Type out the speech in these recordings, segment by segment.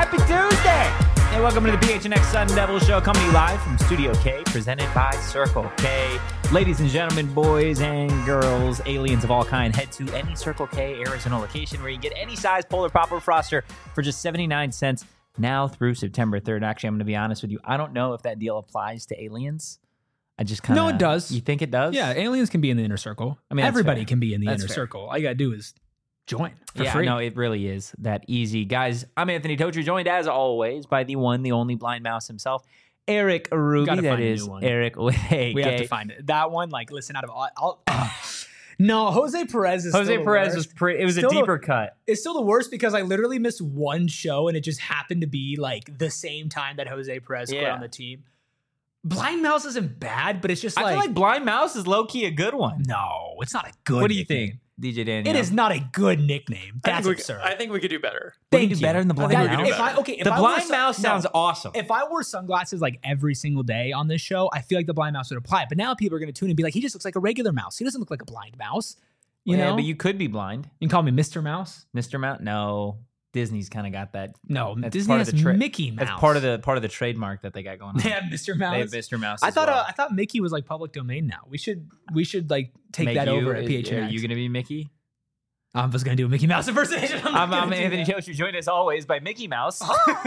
Happy Tuesday! Hey, welcome to the PHNX Sun Devil Show, coming to you live from Studio K, presented by Circle K. Ladies and gentlemen, boys and girls, aliens of all kind, head to any Circle K Arizona location where you can get any size Polar Pop or Froster for just 79 cents now through September 3rd. Actually, I'm going to be honest with you. I don't know if that deal applies to aliens. I just kind of... No, it does. You think it does? Yeah, aliens can be in the inner circle. I mean, everybody can be in the inner circle. All you got to do is join for free. No, it really is that easy. Guys, I'm Anthony Totri, joined as always by the one, the only blind mouse himself, Eric Ruby. That is Eric with a We have to find it. That one, like, listen, out of all... No, Jose Perez is Jose Perez was it was still a deeper cut. It's still the worst because I literally missed one show and it just happened to be like the same time that Jose Perez quit on the team. Blind Mouse isn't bad, but it's just I feel like Blind Mouse is low-key a good one. No, it's not a good What do you think, DJ Daniel? It is not a good nickname. That's absurd. I think we could do better. Thank you. Better than the Blind Mouse? If the I Blind Mouse sounds awesome. If I wore sunglasses like every single day on this show, I feel like the Blind Mouse would apply. But now people are going to tune in and be like, he just looks like a regular mouse. He doesn't look like a blind mouse. You know? But you could be blind. You can call me Mr. Mouse. Mr. Mouse? No. Disney's kind of got that. No, Disney has Mickey Mouse. That's part of the trademark that they got going on. They have Mr. Mouse. They have Mr. Mouse. I thought Mickey was like public domain now. We should like take that over at PHNX. Are you gonna be Mickey? I was gonna do a Mickey Mouse impersonation. I'm Anthony Jones. You're joined as always by Mickey Mouse.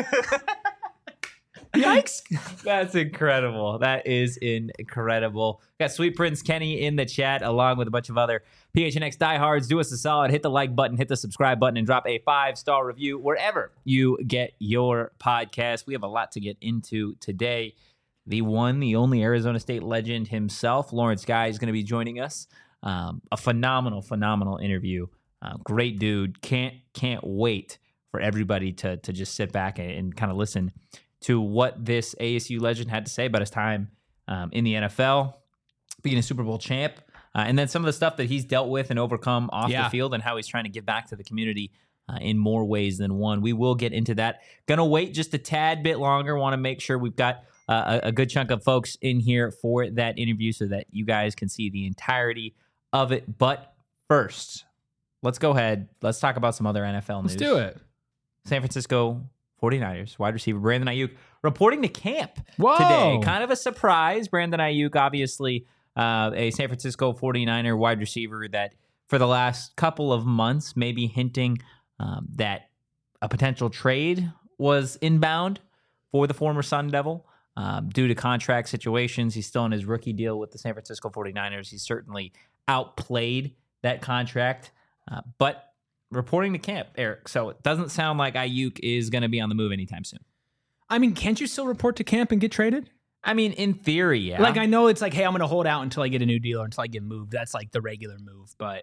Yikes! That's incredible. That is incredible. Got Sweet Prince Kenny in the chat along with a bunch of other PHNX diehards. Do us a solid. Hit the like button, hit the subscribe button, and drop a 5-star review wherever you get your podcast. We have a lot to get into today. The one, the only Arizona State legend himself, Lawrence Guy, is going to be joining us. A phenomenal interview. Great dude. Can't wait for everybody to just sit back and kind of listen to what this ASU legend had to say about his time in the NFL, being a Super Bowl champ, and then some of the stuff that he's dealt with and overcome off the field and how he's trying to give back to the community in more ways than one. We will get into that. Gonna wait just a tad bit longer. Want to make sure we've got a good chunk of folks in here for that interview so that you guys can see the entirety of it. But first, let's go ahead. Let's talk about some other NFL news. Let's do it. San Francisco 49ers wide receiver Brandon Aiyuk reporting to camp today. Kind of a surprise. Brandon Aiyuk, obviously a San Francisco 49er wide receiver that for the last couple of months maybe hinting that a potential trade was inbound for the former Sun Devil due to contract situations. He's still in his rookie deal with the San Francisco 49ers. He's certainly outplayed that contract, but reporting to camp, Eric. So it doesn't sound like Aiyuk is going to be on the move anytime soon. I mean, can't you still report to camp and get traded? I mean, in theory, yeah. Like, I know it's like, hey, I'm going to hold out until I get a new deal or until I get moved. That's like the regular move, but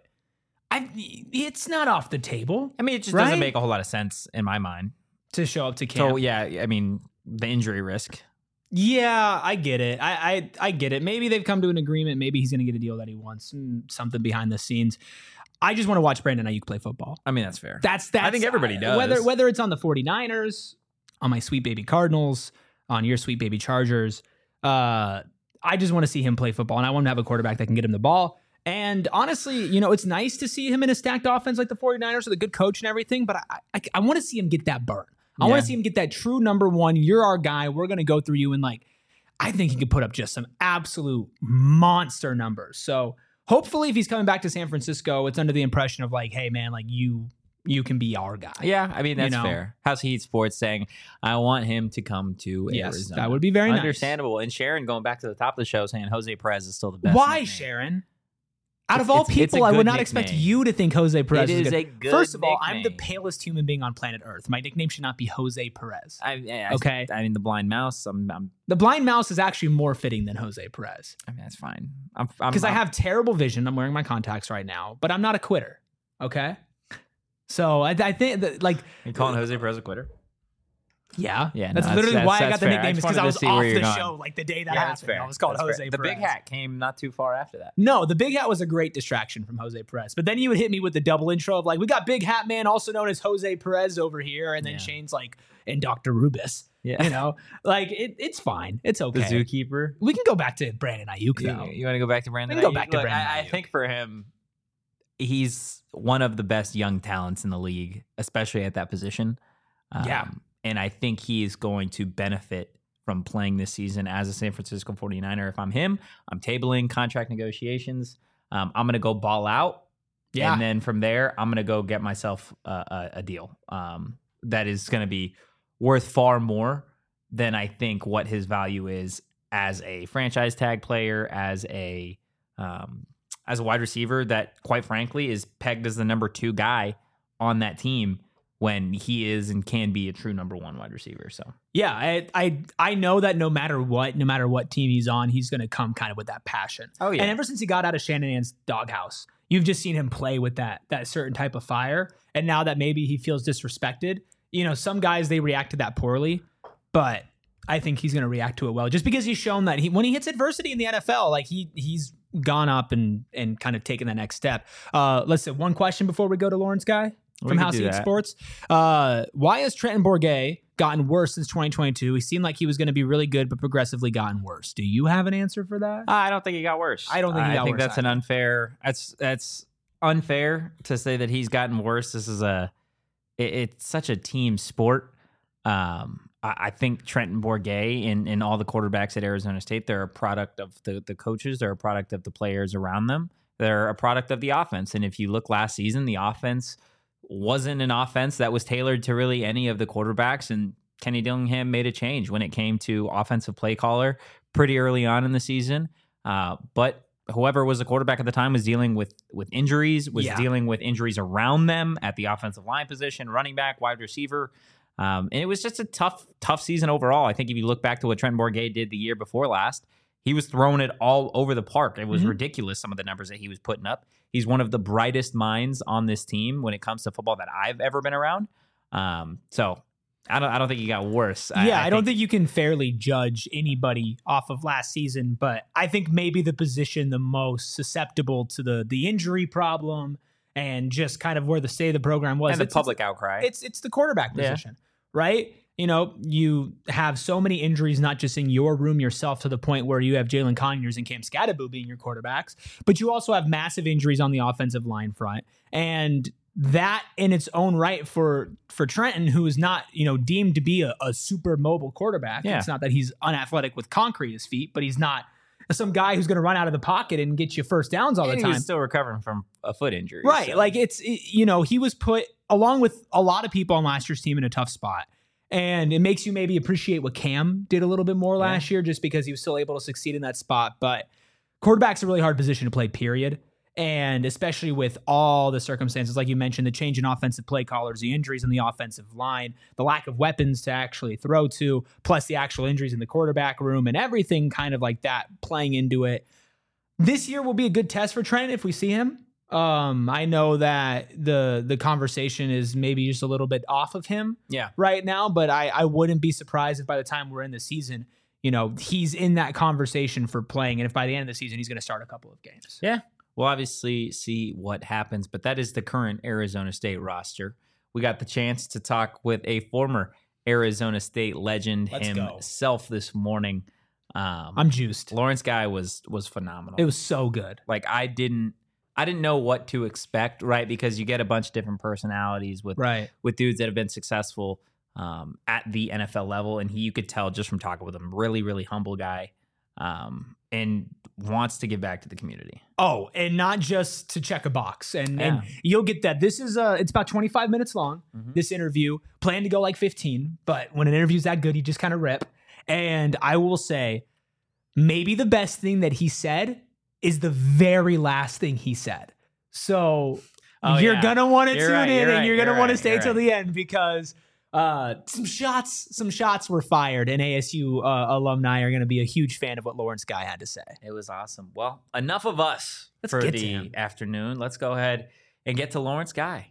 it's not off the table. I mean, it just doesn't make a whole lot of sense in my mind. To show up to camp. So, yeah, I mean, the injury risk. Yeah, I get it. I get it. Maybe they've come to an agreement. Maybe he's going to get a deal that he wants. Something behind the scenes. I just want to watch Brandon Aiyuk play football. I mean, that's fair. That's I think everybody does. Whether it's on the 49ers, on my sweet baby Cardinals, on your sweet baby Chargers, I just want to see him play football, and I want to have a quarterback that can get him the ball. And honestly, it's nice to see him in a stacked offense like the 49ers with a good coach and everything, but I want to see him get that burn. I want to see him get that true number one. You're our guy. We're going to go through you. And I think he could put up just some absolute monster numbers. So hopefully if he's coming back to San Francisco, it's under the impression of hey, man, you can be our guy. Yeah, I mean, that's fair. How's Heat Sports saying, I want him to come to Arizona. That would be very understandable. Nice. And Sharon going back to the top of the show saying Jose Perez is still the best. Why, Sharon? Out of all people, I would not expect you to think Jose Perez is good. A good First of all, nickname. I'm the palest human being on planet Earth. My nickname should not be Jose Perez. Okay? I mean, the blind mouse. The blind mouse is actually more fitting than Jose Perez. I mean, that's fine. Because I have terrible vision. I'm wearing my contacts right now, but I'm not a quitter. Okay? So I think that You're calling Jose Perez a quitter? Yeah. That's literally why I got the nickname, is because I was off the show the day that happened. Fair. I was called Jose Perez. The big hat came not too far after that. No, the big hat was a great distraction from Jose Perez. But then you would hit me with the double intro of we got Big Hat Man, also known as Jose Perez over here. And then Shane's and Dr. Rubis. Yeah. It's fine. It's okay. The zookeeper. We can go back to Brandon Aiyuk, though. You want to go back to Brandon Aiyuk? We can go back to Brandon Aiyuk. I think for him, he's one of the best young talents in the league, especially at that position. And I think he is going to benefit from playing this season as a San Francisco 49er. If I'm him, I'm tabling contract negotiations. I'm going to go ball out. Yeah. And then from there, I'm going to go get myself a deal that is going to be worth far more than I think what his value is as a franchise tag player, as a wide receiver that, quite frankly, is pegged as the number 2 guy on that team when he is and can be a true number 1 wide receiver. So yeah, I know that no matter what team he's on, he's going to come kind of with that passion. Oh yeah. And ever since he got out of Shanahan's doghouse, you've just seen him play with that certain type of fire. And now that maybe he feels disrespected, some guys, they react to that poorly, but I think he's going to react to it well, just because he's shown that when he hits adversity in the NFL, like he's gone up and kind of taken that next step. Listen, one question before we go to Lawrence Guy from House Eat Sports. Why has Trenton Bourguet gotten worse since 2022? He seemed like he was going to be really good, but progressively gotten worse. Do you have an answer for that? I don't think he got worse. I don't think he got worse. I think that's an unfair. That's unfair to say that he's gotten worse. This is it's such a team sport. I think Trenton Bourguet and all the quarterbacks at Arizona State, they're a product of the coaches. They're a product of the players around them. They're a product of the offense. And if you look last season, the offense wasn't an offense that was tailored to really any of the quarterbacks. And Kenny Dillingham made a change when it came to offensive play caller pretty early on in the season. But whoever was the quarterback at the time was dealing with injuries, dealing with injuries around them at the offensive line position, running back, wide receiver. And it was just a tough season overall. I think if you look back to what Trenton Bourguet did the year before last, he was throwing it all over the park. It was ridiculous, some of the numbers that he was putting up. He's one of the brightest minds on this team when it comes to football that I've ever been around. So I don't think he got worse. I don't think you can fairly judge anybody off of last season, but I think maybe the position the most susceptible to the injury problem and just kind of where the state of the program was. And the public outcry. It's the quarterback position, right? You have so many injuries, not just in your room yourself, to the point where you have Jalen Conyers and Cam Scatterbo being your quarterbacks, but you also have massive injuries on the offensive line front. And that in its own right for Trenton, who is not, deemed to be a super mobile quarterback. Yeah. It's not that he's unathletic with concrete at his feet, but he's not some guy who's going to run out of the pocket and get you first downs all the time. He's still recovering from a foot injury. Right. So. Like he was put, along with a lot of people on last year's team, in a tough spot. And it makes you maybe appreciate what Cam did a little bit more last year, just because he was still able to succeed in that spot. But quarterback's a really hard position to play, period. And especially with all the circumstances, like you mentioned, the change in offensive play callers, the injuries in the offensive line, the lack of weapons to actually throw to, plus the actual injuries in the quarterback room and everything kind of like that playing into it. This year will be a good test for Trent if we see him. I know that the conversation is maybe just a little bit off of him right now, but I wouldn't be surprised if by the time we're in the season, he's in that conversation for playing. And if by the end of the season, he's going to start a couple of games. Yeah. We'll obviously see what happens, but that is the current Arizona State roster. We got the chance to talk with a former Arizona State legend himself this morning. I'm juiced. Lawrence Guy was phenomenal. It was so good. Like I didn't know what to expect, right? Because you get a bunch of different personalities with dudes that have been successful at the NFL level, and you could tell just from talking with him, really, really humble guy. And wants to give back to the community. Oh, and not just to check a box. And you'll get that. This is it's about 25 minutes long, this interview. Plan to go like 15, but when an interview's that good, you just kind of rip. And I will say, maybe the best thing that he said is the very last thing he said. So you're going to want to tune in, and you're going to want to stay till the end, because some shots were fired, and ASU alumni are going to be a huge fan of what Lawrence Guy had to say. It was awesome. Well, enough of us for the afternoon. Let's go ahead and get to Lawrence Guy.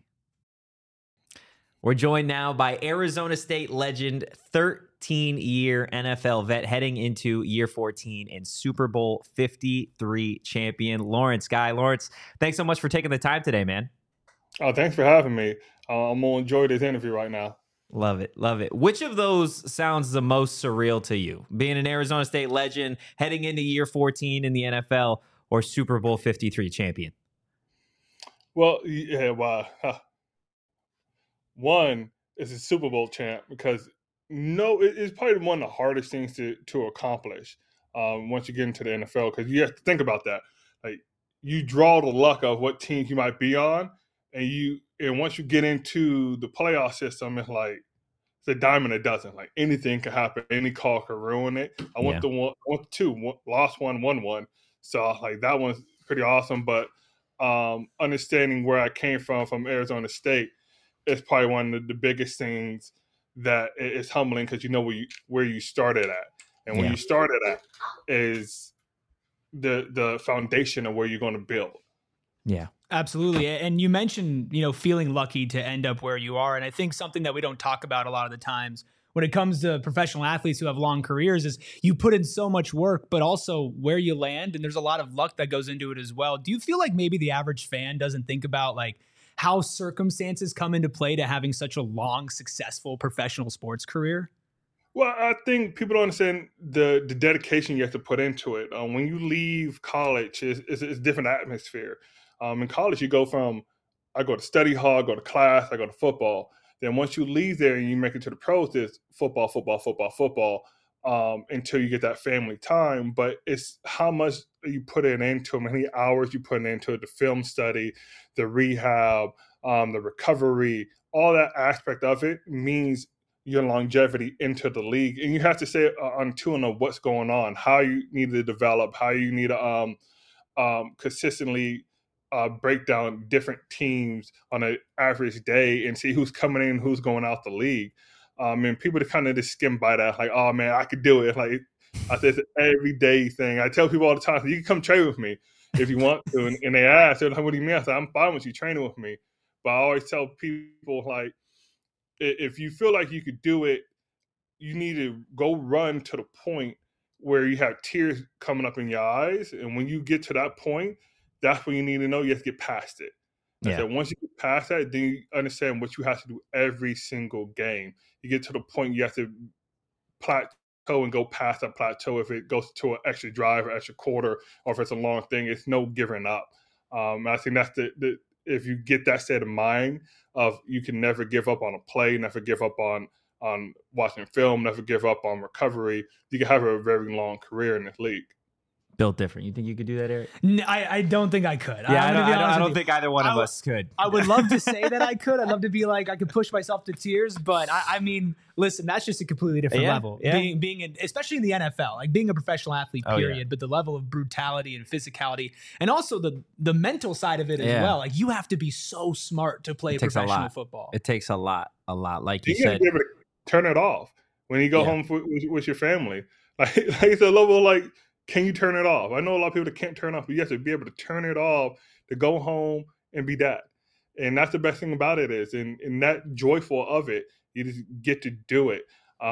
We're joined now by Arizona State legend, 13-year NFL vet, heading into year 14 and Super Bowl 53 champion, Lawrence Guy. Lawrence, thanks so much for taking the time today, man. Oh, thanks for having me. I'm going to enjoy this interview right now. Love it. Love it. Which of those sounds the most surreal to you? Being an Arizona State legend, heading into year 14 in the NFL, or Super Bowl 53 champion? Well, one is a Super Bowl champ, because No, it's probably one of the hardest things to accomplish once you get into the NFL, because you have to think about that. Like, you draw the luck of what teams you might be on, and once you get into the playoff system, it's like it's a dime and a dozen. Like, anything could happen. Any call could ruin it. Yeah. I went two, lost one, won one. So like that one's pretty awesome. But understanding where I came from Arizona State, is probably one of the biggest things that is humbling, because you know where you started at, and where Yeah. you started at is the foundation of where you're going to build. Yeah. Absolutely. And you mentioned, feeling lucky to end up where you are. And I think something that we don't talk about a lot of the times when it comes to professional athletes who have long careers is you put in so much work, but also where you land. And there's a lot of luck that goes into it as well. Do you feel like maybe the average fan doesn't think about like how circumstances come into play to having such a long, successful professional sports career? Well, I think people don't understand the dedication you have to put into it. When you leave college, it's a different atmosphere. In college, you go from, I go to study hall, I go to class, I go to football. Then once you leave there and you make it to the pros, it's football, football, football, football, until you get that family time. But it's how much you put it into, how many hours you put into it, the film study, the rehab, the recovery, all that aspect of it means your longevity into the league. And you have to stay on tune of what's going on, how you need to develop, how you need to consistently break down different teams on an average day and see who's coming in, who's going out the league. And people to kind of just skim by that, like, oh man, I could do it. Like, I said, it's an everyday thing. I tell people all the time, you can come train with me if you want to. And they ask, they're like, what do you mean? I said, I'm fine with you training with me. But I always tell people, like, if you feel like you could do it, you need to go run to the point where you have tears coming up in your eyes. And when you get to that point, that's when you need to know you have to get past it. Yeah. So once you get past that, then you understand what you have to do every single game. You get to the point you have to plateau and go past that plateau. If it goes to an extra drive or extra quarter, or if it's a long thing, it's no giving up. I think that's the if you get that state of mind of you can never give up on a play, never give up on watching film, never give up on recovery, you can have a very long career in this league. Built different. You think you could do that, Eric? I don't think I could. Yeah, I don't think either one of us could. I would love to say that I could. I'd love to be like, I could push myself to tears, but I mean, listen, that's just a completely different level. Yeah. Being in, especially in the NFL, like being a professional athlete, period, yeah. but the level of brutality and physicality, and also the mental side of it as well. Like, you have to be so smart to play professional football. It takes a lot. Like you you said. Be able to turn it off when you go home with your family. Like it's a level of, like, can you turn it off? I know a lot of people that can't turn off, but you have to be able to turn it off to go home and be that. And that's the best thing about it is, and that joyful of it, you just get to do it.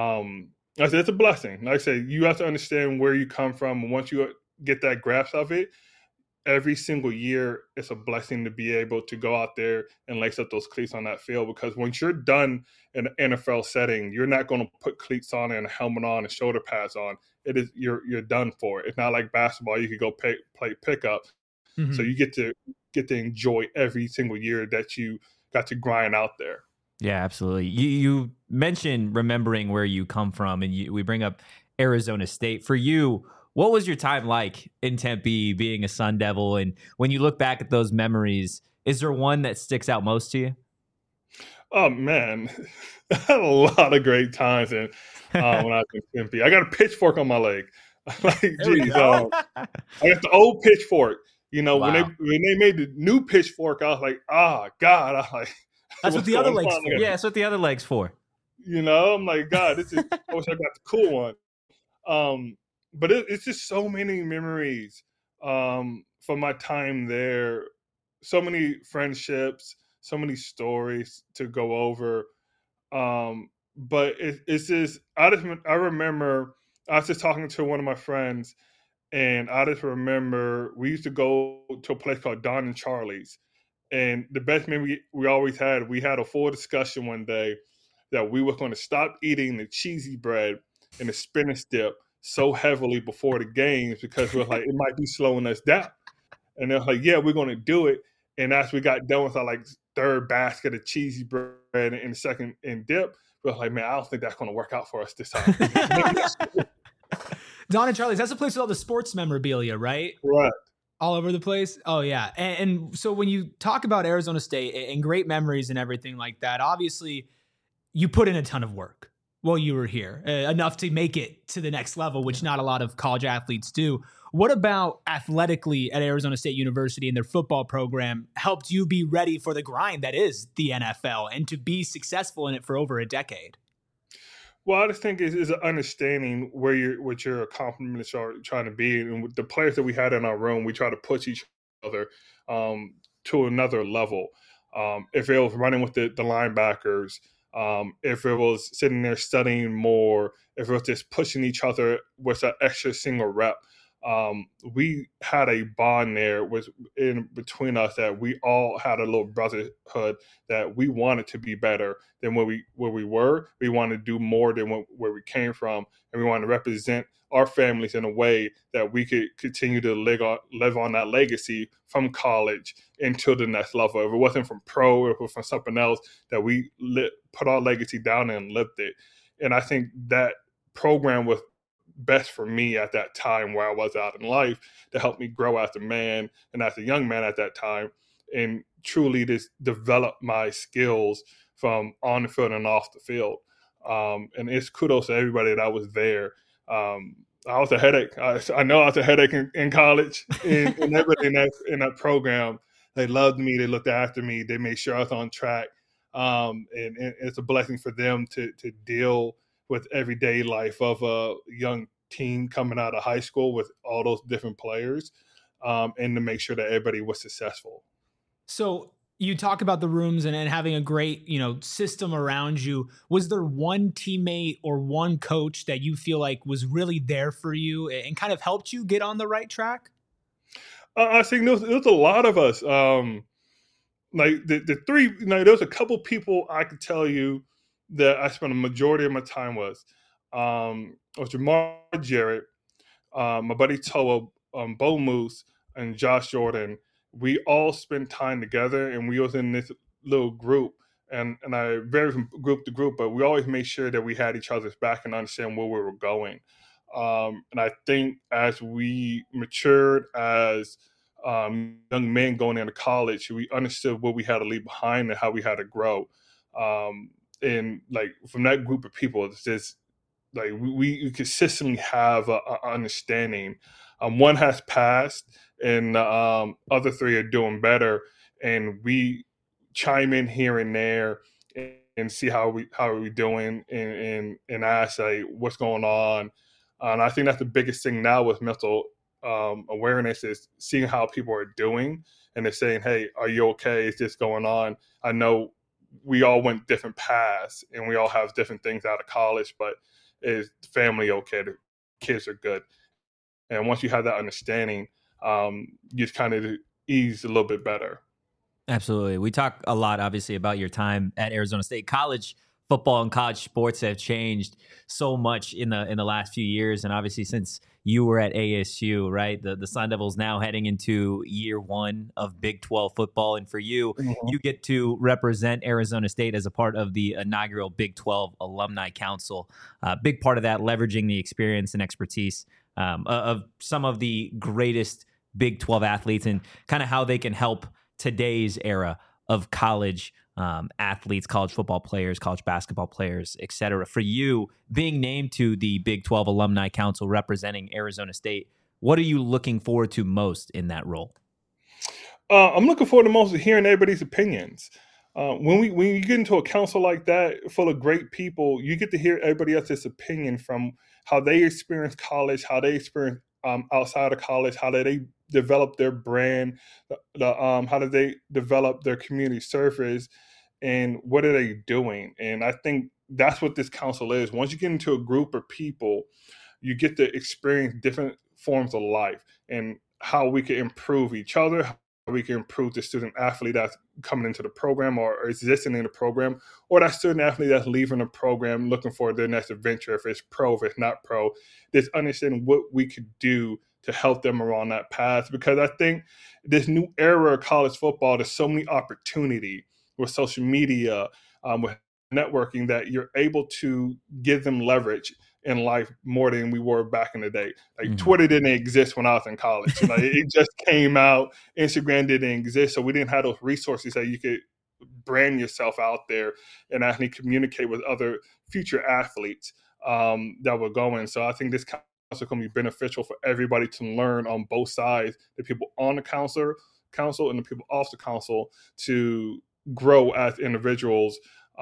I said, it's a blessing. Like I said, you have to understand where you come from. And once you get that grasp of it, every single year, it's a blessing to be able to go out there and lace up those cleats on that field. Because once you're done in an NFL setting, you're not going to put cleats on and a helmet on and shoulder pads on. It is you're done for it. It's not like basketball. You could go play pickup. Mm-hmm. So you get to enjoy every single year that you got to grind out there. Yeah, absolutely. You mentioned remembering where you come from, and we bring up Arizona State. For you, what was your time like in Tempe being a Sun Devil? And when you look back at those memories, is there one that sticks out most to you? Oh, man. I had a lot of great times when I was in Tempe. I got a pitchfork on my leg. Like, geez, I got the old pitchfork. You know, wow. when they made the new pitchfork, I was like, God. I was like, that's what the other leg's for. Yeah, that's what the other leg's for. You know, I'm like, God, I wish I got the cool one. But it's just so many memories from my time there. So many friendships, so many stories to go over. But it's just, I remember I was just talking to one of my friends, and I just remember we used to go to a place called Don and Charlie's. And the best memory we always had, we had a full discussion one day that we were going to stop eating the cheesy bread and the spinach dip so heavily before the games because we're like, it might be slowing us down. And they're like, yeah, we're going to do it. And as we got done with our like third basket of cheesy bread and the second in dip. We're like, man, I don't think that's going to work out for us this time. Don and Charlie's, that's a place with all the sports memorabilia, right? Right. All over the place. Oh yeah. And so when you talk about Arizona State and great memories and everything like that, obviously you put in a ton of work while you were here, enough to make it to the next level, which not a lot of college athletes do. What about athletically at Arizona State University and their football program helped you be ready for the grind that is the NFL and to be successful in it for over a decade? Well, I just think is an understanding what your accomplishments are trying to be, and with the players that we had in our room, we try to push each other to another level. If it was running with the linebackers, if it was sitting there studying more, if it was just pushing each other with an extra single rep, we had a bond there was in between us that we all had a little brotherhood that we wanted to be better than where we were. We wanted to do more than where we came from, and we wanted to represent our families in a way that we could continue to live on that legacy from college into the next level. If it wasn't from pro, if it was from something else, that we put our legacy down and lived it. And I think that program was best for me at that time where I was out in life to help me grow as a man and as a young man at that time, and truly just develop my skills from on the field and off the field. And it's kudos to everybody that was there. I was a headache. I know I was a headache in college, and everybody in that program, they loved me. They looked after me. They made sure I was on track. And it's a blessing for them to deal with everyday life of a young team coming out of high school with all those different players, and to make sure that everybody was successful. So you talk about the rooms and having a great, system around you. Was there one teammate or one coach that you feel like was really there for you and kind of helped you get on the right track? I think there was a lot of us. Like the three, there was a couple people I could tell you that I spent a majority of my time with. Was Jamar Jarrett, my buddy Toa, Bo Moose, and Josh Jordan. We all spent time together, and we was in this little group. And I vary from group to group, but we always made sure that we had each other's back and understand where we were going. And I think as we matured as young men going into college, we understood what we had to leave behind and how we had to grow. And like from that group of people, it's just like we consistently have an understanding. One has passed, and other three are doing better, and we chime in here and there and see how are we doing, and ask like what's going on. And I think that's the biggest thing now with mental awareness is seeing how people are doing, and they're saying, "Hey, are you okay? Is this going on?" I know we all went different paths, and we all have different things out of college, but is family okay? The kids are good. And once you have that understanding, you kind of ease a little bit better. Absolutely. We talk a lot, obviously, about your time at Arizona State. College football and college sports have changed so much in the last few years, and obviously since you were at ASU, right? The Sun Devils now heading into year one of Big 12 football, and for you, you get to represent Arizona State as a part of the inaugural Big 12 Alumni Council. Big part of that, leveraging the experience and expertise of some of the greatest Big 12 athletes and kind of how they can help today's era of college athletes, college football players, college basketball players, et cetera. For you, being named to the Big 12 Alumni Council representing Arizona State, what are you looking forward to most in that role? I'm looking forward to most of hearing everybody's opinions. When you get into a council like that full of great people, you get to hear everybody else's opinion from how they experience college, how they experience outside of college, how they develop their brand, how do they develop their community service, and what are they doing? And I think that's what this council is. Once you get into a group of people, you get to experience different forms of life and how we can improve each other, how we can improve the student athlete that's coming into the program or existing in the program, or that student athlete that's leaving the program looking for their next adventure, if it's pro, if it's not pro. Just understanding what we could do to help them around that path. Because I think this new era of college football, there's so many opportunity with social media, with networking, that you're able to give them leverage in life more than we were back in the day. Like Twitter didn't exist when I was in college. It just came out. Instagram didn't exist. So we didn't have those resources that you could brand yourself out there and actually communicate with other future athletes that were going. So I think this council is going to be beneficial for everybody to learn on both sides, the people on the council and the people off the council, to grow as individuals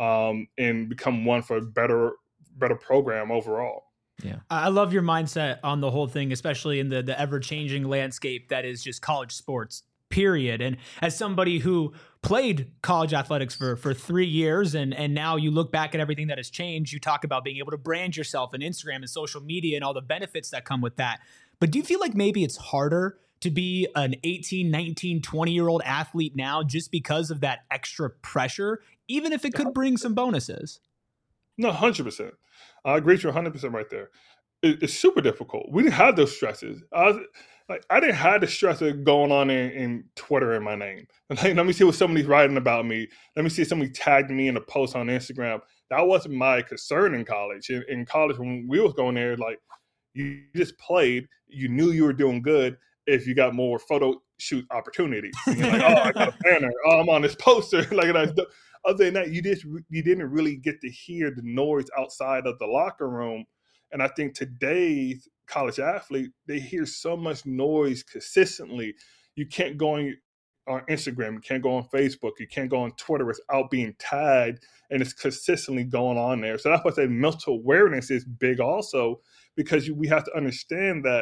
and become one for a better program overall. Yeah, I love your mindset on the whole thing, especially in the ever-changing landscape that is just college sports, period. And as somebody who played college athletics for 3 years, and now you look back at everything that has changed, you talk about being able to brand yourself on Instagram and social media and all the benefits that come with that. But do you feel like maybe it's harder to be an 18, 19, 20-year-old athlete now just because of that extra pressure, even if it could bring some bonuses? No, 100%. I agree with you 100% right there. It's super difficult. We didn't have those stresses. I didn't have the stress of going on in Twitter in my name. Like, let me see what somebody's writing about me. Let me see if somebody tagged me in a post on Instagram. That wasn't my concern in college. In college, when we was going there, like, you just played. You knew you were doing good if you got more photo shoot opportunities. And you're like, oh, I got a banner. Oh, I'm on this poster. Like, other than that, you didn't really get to hear the noise outside of the locker room. And I think today's college athlete, they hear so much noise consistently. You can't go on Instagram, you can't go on Facebook, you can't go on Twitter without being tagged, and it's consistently going on there. So that's why I say mental awareness is big also, because we have to understand that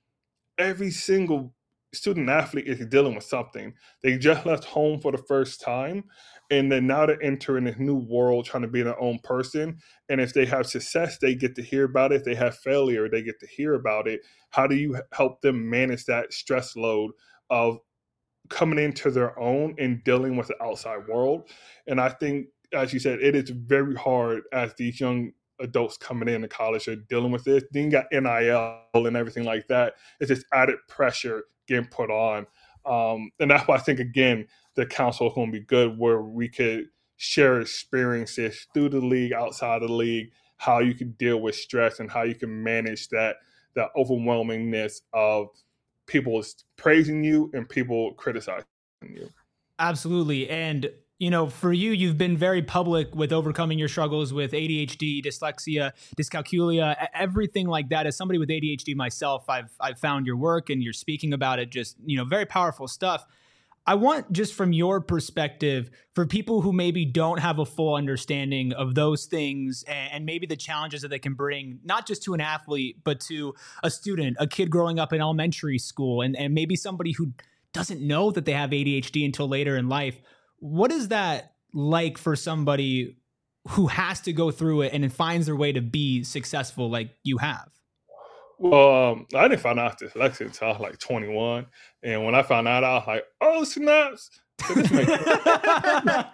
every single student athlete is dealing with something. They just left home for the first time, and then now they're entering this new world trying to be their own person. And if they have success, they get to hear about it. If they have failure, they get to hear about it. How do you help them manage that stress load of coming into their own and dealing with the outside world? And I think, as you said, it is very hard as these young adults coming into college are dealing with this. Then you got NIL and everything like that. It's just added pressure getting put on. And that's why I think, again, the council is going to be good, where we could share experiences through the league, outside of the league, how you can deal with stress and how you can manage that overwhelmingness of people praising you and people criticizing you. Absolutely. And for you, you've been very public with overcoming your struggles with ADHD, dyslexia, dyscalculia, everything like that. As somebody with ADHD myself, I've found your work and you're speaking about it, just, very powerful stuff. I want, just from your perspective, for people who maybe don't have a full understanding of those things and maybe the challenges that they can bring, not just to an athlete, but to a student, a kid growing up in elementary school, and maybe somebody who doesn't know that they have ADHD until later in life. What is that like for somebody who has to go through it and finds their way to be successful like you have? Well, I didn't find out dyslexia until I was like 21. And when I found out, I was like, oh, snaps. So this makes that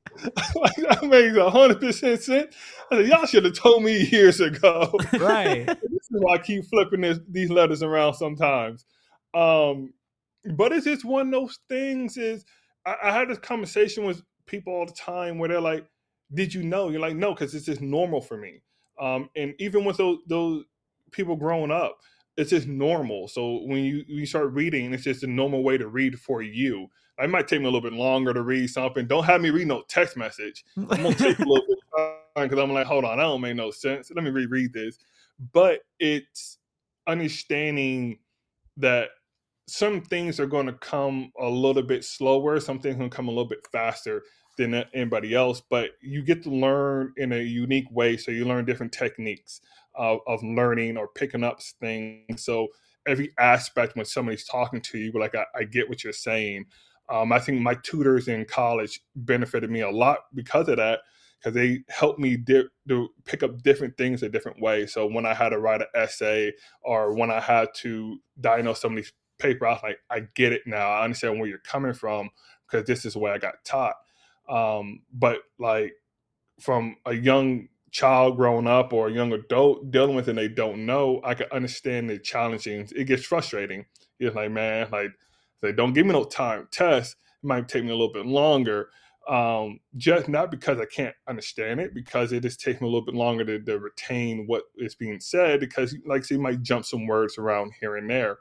makes 100% sense. I said, y'all should have told me years ago. Right. This is why I keep flipping these letters around sometimes. But it's just one of those things is, I had this conversation with people all the time where they're like, did you know? You're like, no, because it's just normal for me. And even with those people growing up, it's just normal. So when you start reading, it's just a normal way to read for you. It might take me a little bit longer to read something. Don't have me read no text message. I'm going to take a little bit of time because I'm like, hold on, that don't make no sense. Let me reread this. But it's understanding that some things are going to come a little bit slower. Some things are going to come a little bit faster than anybody else. But you get to learn in a unique way. So you learn different techniques of learning or picking up things. So every aspect when somebody's talking to you, like, I get what you're saying. I think my tutors in college benefited me a lot because of that, because they helped me to pick up different things a different way. So when I had to write an essay or when I had to diagnose somebody's paper, I was like, I get it now. I understand where you're coming from because this is the way I got taught. But like from a young child growing up or a young adult dealing with it and they don't know, I can understand the challenging. It gets frustrating. It's like, man, like, don't give me no time test. It might take me a little bit longer. Just not because I can't understand it, because it just takes me a little bit longer to retain what is being said, because like you might jump some words around here and there.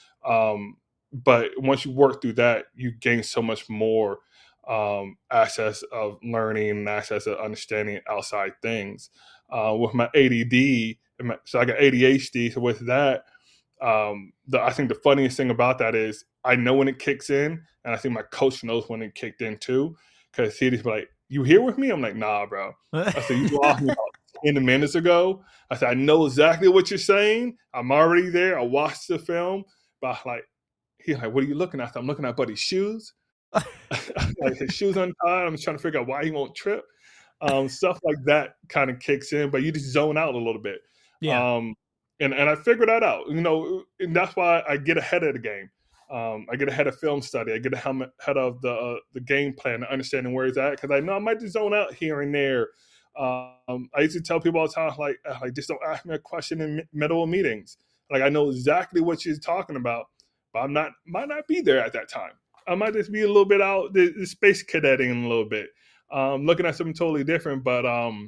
But once you work through that, you gain so much more access of learning and access of understanding outside things. With my ADD, so I got ADHD. So with that, I think the funniest thing about that is I know when it kicks in, and I think my coach knows when it kicked in too, because he'd just be like, "You here with me?" I'm like, "Nah, bro." I said, "You lost me about 10 minutes ago." I said, "I know exactly what you're saying. I'm already there. I watched the film." But he's like, "What are you looking at?" I'm looking at Buddy's shoes. Like his shoes untied. I'm trying to figure out why he won't trip. Stuff like that kind of kicks in, but you just zone out a little bit. Yeah. And I figured that out, and that's why I get ahead of the game. I get ahead of film study. I get ahead of the game plan, understanding where it's at, because I know I might just zone out here and there. I used to tell people all the time, like just don't ask me a question in middle of meetings. Like I know exactly what you're talking about, but might not be there at that time. I might just be a little bit out the space cadetting a little bit, looking at something totally different. But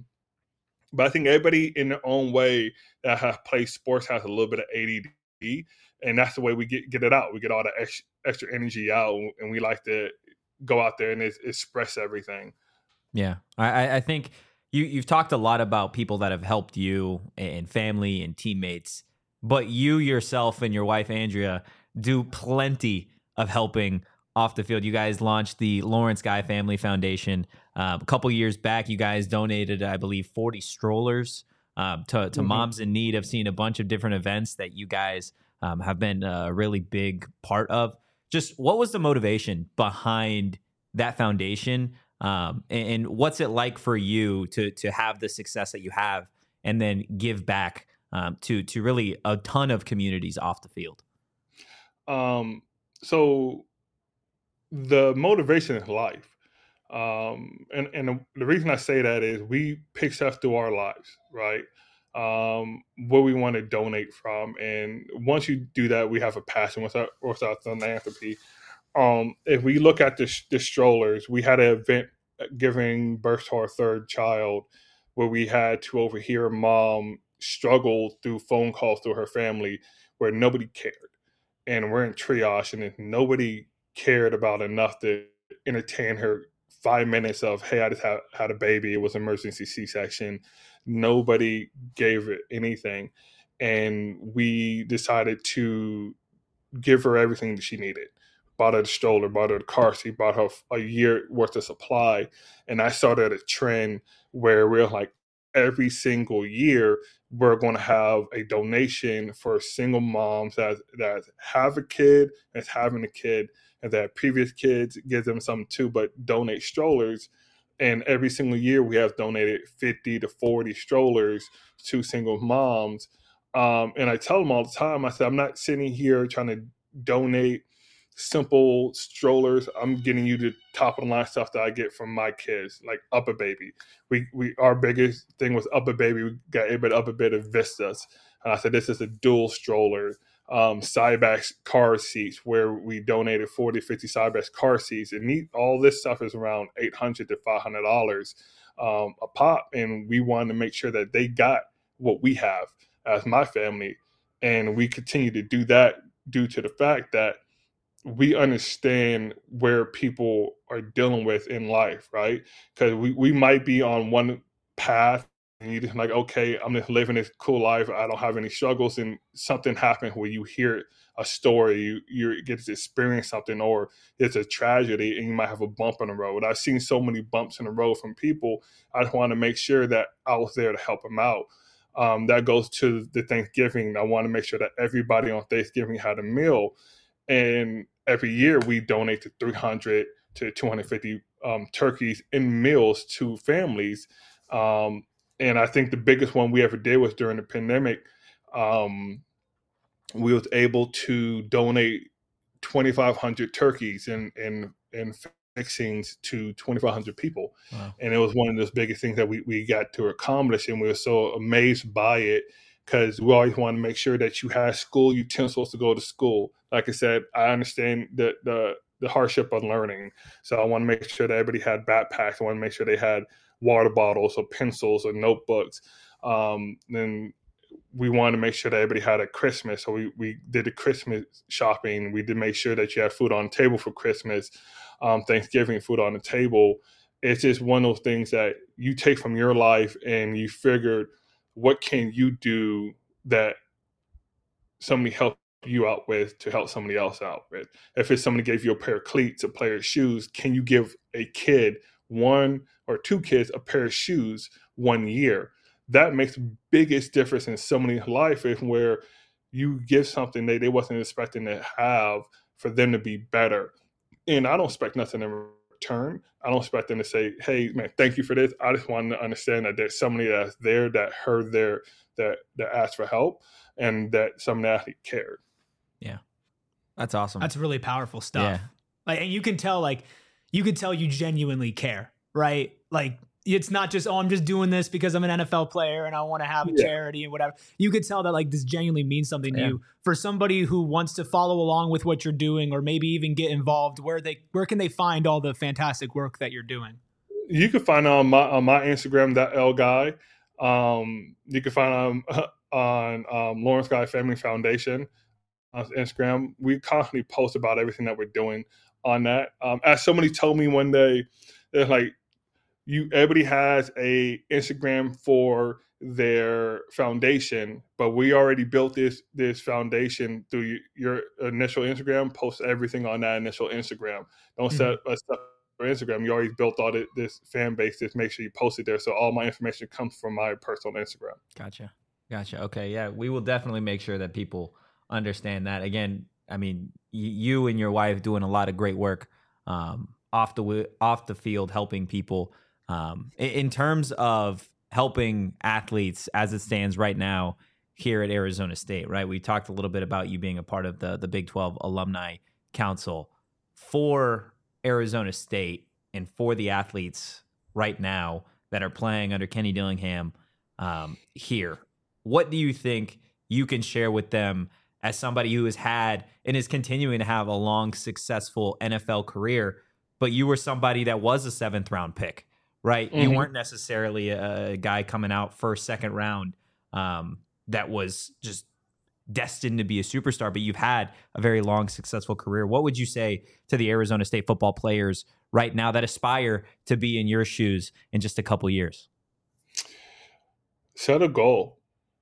I think everybody in their own way that has played sports has a little bit of ADD, and that's the way we get it out. We get all the extra energy out, and we like to go out there and express everything. Yeah, I think you've talked a lot about people that have helped you and family and teammates, but you yourself and your wife Andrea do plenty of helping off the field. You guys launched the Lawrence Guy Family Foundation a couple years back. You guys donated, I believe, 40 strollers to moms in need. I've seen a bunch of different events that you guys have been a really big part of. Just what was the motivation behind that foundation? And what's it like for you to have the success that you have and then give back to really a ton of communities off the field? So the motivation is life. And the reason I say that is we pick stuff through our lives, right? Where we want to donate from. And once you do that, we have a passion with our philanthropy. If we look at the strollers, we had an event giving birth to our third child where we had to overhear a mom struggle through phone calls through her family where nobody cared. And we're in triage, and nobody cared about enough to entertain her 5 minutes of, "Hey, I just had a baby. It was an emergency C-section." Nobody gave it anything. And we decided to give her everything that she needed. Bought her the stroller, bought her the car seat, bought her a year worth of supply. And I started a trend where we're like, every single year, we're going to have a donation for single moms that have a kid, that's having a kid, and that previous kids give them something too, but donate strollers. And every single year, we have donated 50 to 40 strollers to single moms. And I tell them all the time, I said, I'm not sitting here trying to donate simple strollers. I'm getting you the top of the line stuff that I get from my kids, like UPPAbaby. We our biggest thing was UPPAbaby. We got everybody UPPAbaby Vistas. And I said, this is a dual stroller. Cybex car seats, where we donated 40, 50 Cybex car seats. And all this stuff is around $800 to $500 a pop. And we wanted to make sure that they got what we have as my family. And we continue to do that due to the fact that we understand where people are dealing with in life, right? Because we might be on one path and you're just like, okay, I'm just living this cool life. I don't have any struggles. And something happens where you hear a story, you get to experience something, or it's a tragedy and you might have a bump in the road. I've seen so many bumps in the road from people. I just want to make sure that I was there to help them out. That goes to the Thanksgiving. I want to make sure that everybody on Thanksgiving had a meal. And every year we donate to 300 to 250 turkeys in meals to families. And I think the biggest one we ever did was during the pandemic. We was able to donate 2,500 turkeys and fixings to 2,500 people. Wow. And it was one of those biggest things that we got to accomplish. And we were so amazed by it, because we always want to make sure that you have school utensils to go to school. Like I said, I understand the the hardship of learning. So I want to make sure that everybody had backpacks. I want to make sure they had water bottles or pencils or notebooks. Then we wanted to make sure that everybody had a Christmas. So we did the Christmas shopping. We did make sure that you had food on the table for Christmas, Thanksgiving, food on the table. It's just one of those things that you take from your life and you figured, what can you do that somebody helped you out with to help somebody else out with? If it's somebody gave you a pair of cleats, a pair of shoes, can you give a kid, one or two kids, a pair of shoes 1 year? That makes the biggest difference in somebody's life, is where you give something they wasn't expecting to have for them to be better. And I don't expect nothing in return. I don't expect them to say, hey, man, thank you for this. I just want to understand that there's somebody that's there that heard that asked for help, and that somebody actually cared. Yeah. That's awesome. That's really powerful stuff. Yeah. Like, and you can tell you genuinely care, right? Like, it's not just, oh, I'm just doing this because I'm an NFL player and I want to have a charity and whatever. You could tell that, like, this genuinely means something to you. For somebody who wants to follow along with what you're doing, or maybe even get involved, where can they find all the fantastic work that you're doing? You can find on my Instagram, that L Guy. You can find on Lawrence Guy Family Foundation on Instagram. We constantly post about everything that we're doing on that. As somebody told me one day, they're like, everybody has a Instagram for their foundation, but we already built this foundation through your initial Instagram. Post everything on that initial Instagram. Don't set us up for Instagram. You already built all this fan base. Just make sure you post it there. So all my information comes from my personal Instagram. Gotcha. Okay. Yeah. We will definitely make sure that people understand that. Again, I mean, you and your wife doing a lot of great work off the field, helping people. In terms of helping athletes as it stands right now here at Arizona State, right? We talked a little bit about you being a part of the Big 12 Alumni Council. For Arizona State and for the athletes right now that are playing under Kenny Dillingham here, what do you think you can share with them as somebody who has had and is continuing to have a long, successful NFL career, but you were somebody that was a 7th round pick? Right. Mm-hmm. You weren't necessarily a guy coming out first, second round that was just destined to be a superstar, but you've had a very long, successful career. What would you say to the Arizona State football players right now that aspire to be in your shoes in just a couple years? Set a goal.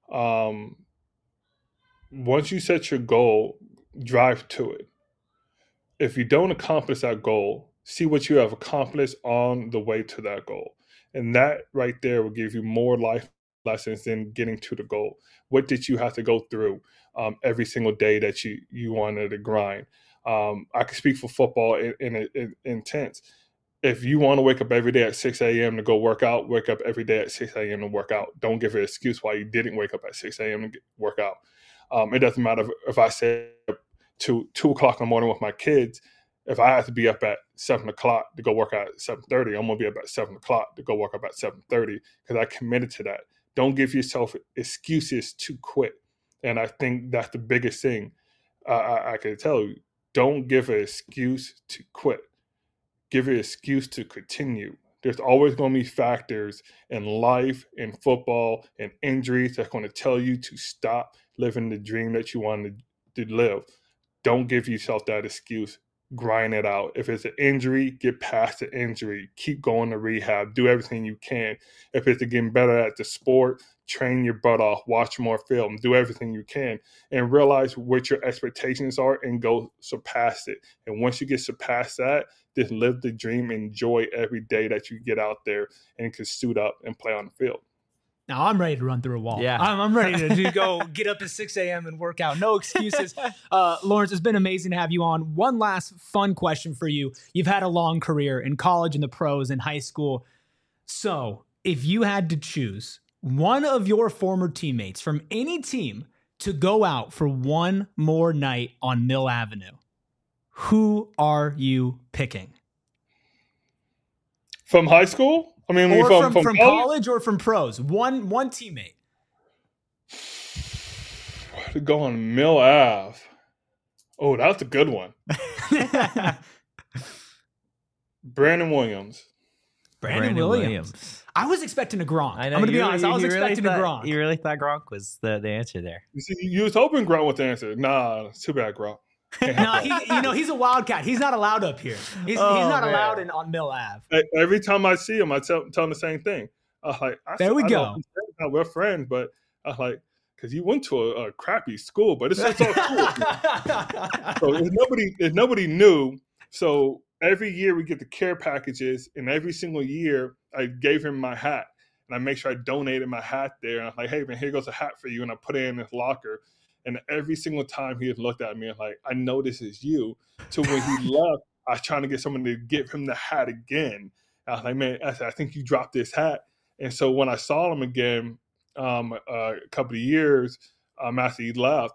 Once you set your goal, drive to it. If you don't accomplish that goal, see what you have accomplished on the way to that goal. And that right there will give you more life lessons than getting to the goal. What did you have to go through every single day that you wanted to grind? I can speak for football in intense. If you want to wake up every day at 6 a.m. to go work out, wake up every day at 6 a.m. to work out. Don't give an excuse why you didn't wake up at 6 a.m. to work out. It doesn't matter if I say to 2 o'clock in the morning with my kids. If I have to be up at 7 o'clock to go work out at 7:30, I'm going to be up at 7 o'clock to go work up at 7:30 because I committed to that. Don't give yourself excuses to quit. And I think that's the biggest thing I can tell you. Don't give an excuse to quit. Give an excuse to continue. There's always going to be factors in life, in football, in injuries that's going to tell you to stop living the dream that you wanted to live. Don't give yourself that excuse. Grind it out. If it's an injury, get past the injury. Keep going to rehab. Do everything you can. If it's getting better at the sport, train your butt off. Watch more film. Do everything you can. And realize what your expectations are and go surpass it. And once you get surpassed that, just live the dream. Enjoy every day that you get out there and can suit up and play on the field. Now I'm ready to run through a wall. Yeah. I'm ready to go get up at 6 a.m. and work out. No excuses. Lawrence, it's been amazing to have you on. One last fun question for you. You've had a long career in college, in the pros, in high school. So if you had to choose one of your former teammates from any team to go out for one more night on Mill Avenue, who are you picking? From high school? I mean, or from college or from pros. One teammate. To go on Mill Ave. Oh, that's a good one. Brandon Williams. Brandon Williams. I was expecting a Gronk. I know, I'm going to be you honest. really- I was you really expecting a thought- Gronk. You really thought Gronk was the answer there? You see, you was hoping Gronk was the answer. Nah, it's too bad, Gronk. No, he's a wildcat. He's not allowed up here. He's not allowed on Mill Ave. Every time I see him, I tell him the same thing. I was like, There we go. We're friends, but I was like, because you went to a crappy school, but it's all cool. So if nobody knew, so every year we get the care packages, and every single year I gave him my hat, and I make sure I donated my hat there. And I'm like, hey man, here goes a hat for you, and I put it in his locker. And every single time he had looked at me, and like, I know this is you. So when he left, I was trying to get someone to give him the hat again. I was like, man, I think you dropped this hat. And so when I saw him again, a couple of years after he left,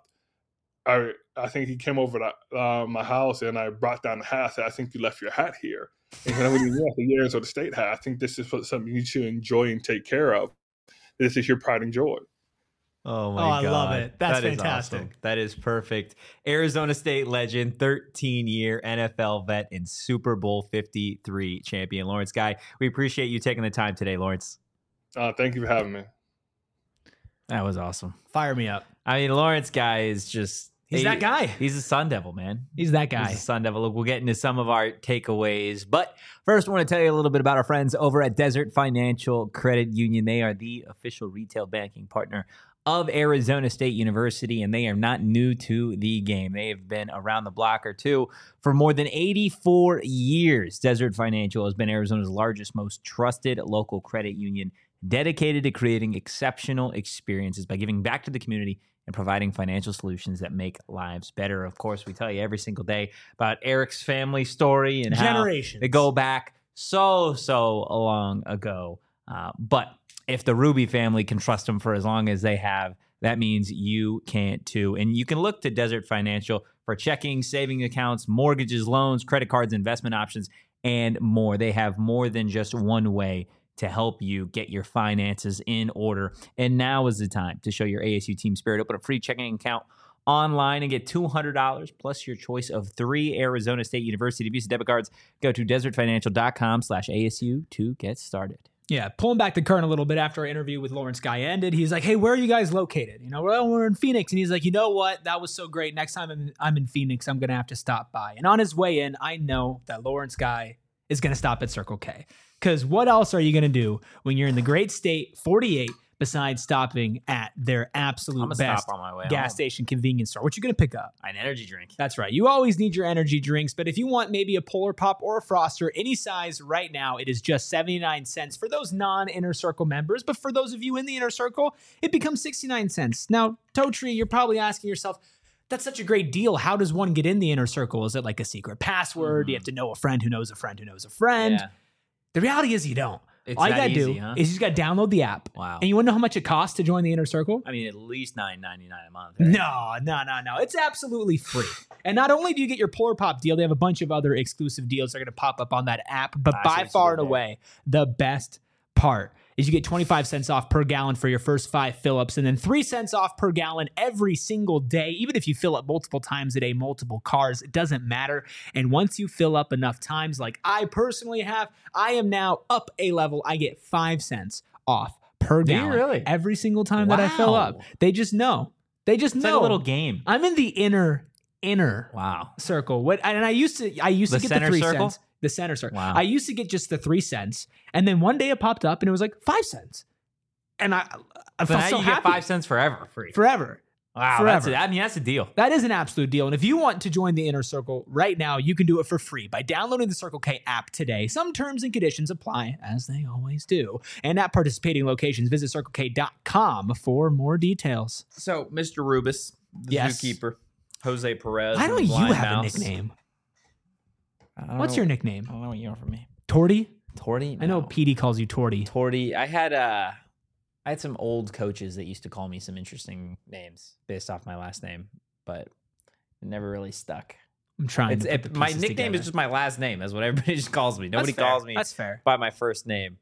I think he came over to my house, and I brought down the hat. I said, I think you left your hat here. And then when he left the years of the state hat, I think this is something you should enjoy and take care of. This is your pride and joy. Oh my God. I love it. That's That is fantastic. awesome. That is perfect. Arizona State legend, 13-year NFL vet, and Super Bowl 53 champion, Lawrence Guy. We appreciate you taking the time today, Lawrence. Thank you for having me. That was awesome. Fire me up. I mean, Lawrence Guy is just... He's that guy. He's a Sun Devil, man. He's that guy. He's a Sun Devil. Look, we'll get into some of our takeaways. But first, I want to tell you a little bit about our friends over at Desert Financial Credit Union. They are the official retail banking partner of Arizona State University, and they are not new to the game. They have been around the block or two for more than 84 years. Desert Financial has been Arizona's largest, most trusted local credit union, dedicated to creating exceptional experiences by giving back to the community and providing financial solutions that make lives better. Of course, we tell you every single day about Eric's family story and Generations. how they go back so long ago. But if the Ruby family can trust them for as long as they have, that means you can too. And you can look to Desert Financial for checking, saving accounts, mortgages, loans, credit cards, investment options, and more. They have more than just one way to help you get your finances in order. And now is the time to show your ASU team spirit. Open a free checking account online and get $200 plus your choice of 3 Arizona State University Visa debit cards. Go to desertfinancial.com/ASU to get started. Yeah, pulling back the curtain a little bit after our interview with Lawrence Guy ended, he's like, hey, where are you guys located? You know, well, we're in Phoenix. And he's like, you know what? That was so great. Next time I'm in Phoenix, I'm going to have to stop by. And on his way in, I know that Lawrence Guy is going to stop at Circle K. Because what else are you going to do when you're in the great state 48 besides stopping at their absolute best stop on my way gas home. station convenience store? What you going to pick up? An energy drink. That's right. You always need your energy drinks, but if you want maybe a Polar Pop or a Froster, any size right now, it is just 79 cents for those non-Inner Circle members. But for those of you in the Inner Circle, it becomes 69 cents. Now, Toe Tree, you're probably asking yourself, that's such a great deal. How does one get in the Inner Circle? Is it like a secret password? Do you have to know a friend who knows a friend who knows a friend? Yeah. The reality is you don't. It's All you that got to do easy, huh? is you just got to download the app. Wow. And you want to know how much it costs to join the Inner Circle? I mean, at least $9.99 a month. Right? No. It's absolutely free. And not only do you get your Polar Pop deal, they have a bunch of other exclusive deals that are going to pop up on that app. But I by see far what and you did there. away, the best part is you get 25 cents off per gallon for your first 5 fill-ups, and then 3 cents off per gallon every single day. Even if you fill up multiple times a day, multiple cars, it doesn't matter. And once you fill up enough times, like I personally have, I am now up a level. I get 5 cents off per Do you gallon really? every single time that I fill up. Wow. They just know. They just It's know. like a little game. I'm in the inner Wow. circle. What? And I used to get the center 3 circle? cents. The center circle. Wow. I used to get just the 3 cents, and then one day it popped up and it was like 5 cents, and I So felt now so you happy. get 5 cents forever free. Forever. Wow. forever. That's a deal. That is an absolute deal. And if you want to join the Inner Circle right now, you can do it for free by downloading the Circle K app today. Some terms and conditions apply, as they always do. And at participating locations, visit CircleK.com for more details. So, Mr. Rubis, the Yes. zookeeper, Jose Perez. Why and don't you Blind have Mouse. a nickname? I don't What's know- your nickname? I don't know what you want from me. Torty? Torty? I know No. Petey calls you Torty. Torty. I had some old coaches that used to call me some interesting names based off my last name, but it never really stuck. I'm trying to put the My pieces nickname together. is just my last name. That's what everybody just calls me. Nobody That's fair. calls me That's fair. by my first name.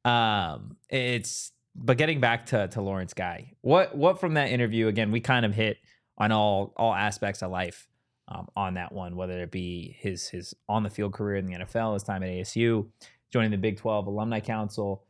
But getting back to Lawrence Guy, what from that interview, again, we kind of hit on all aspects of life. on that one, whether it be his on the field career in the NFL, his time at ASU, joining the Big 12 Alumni Council,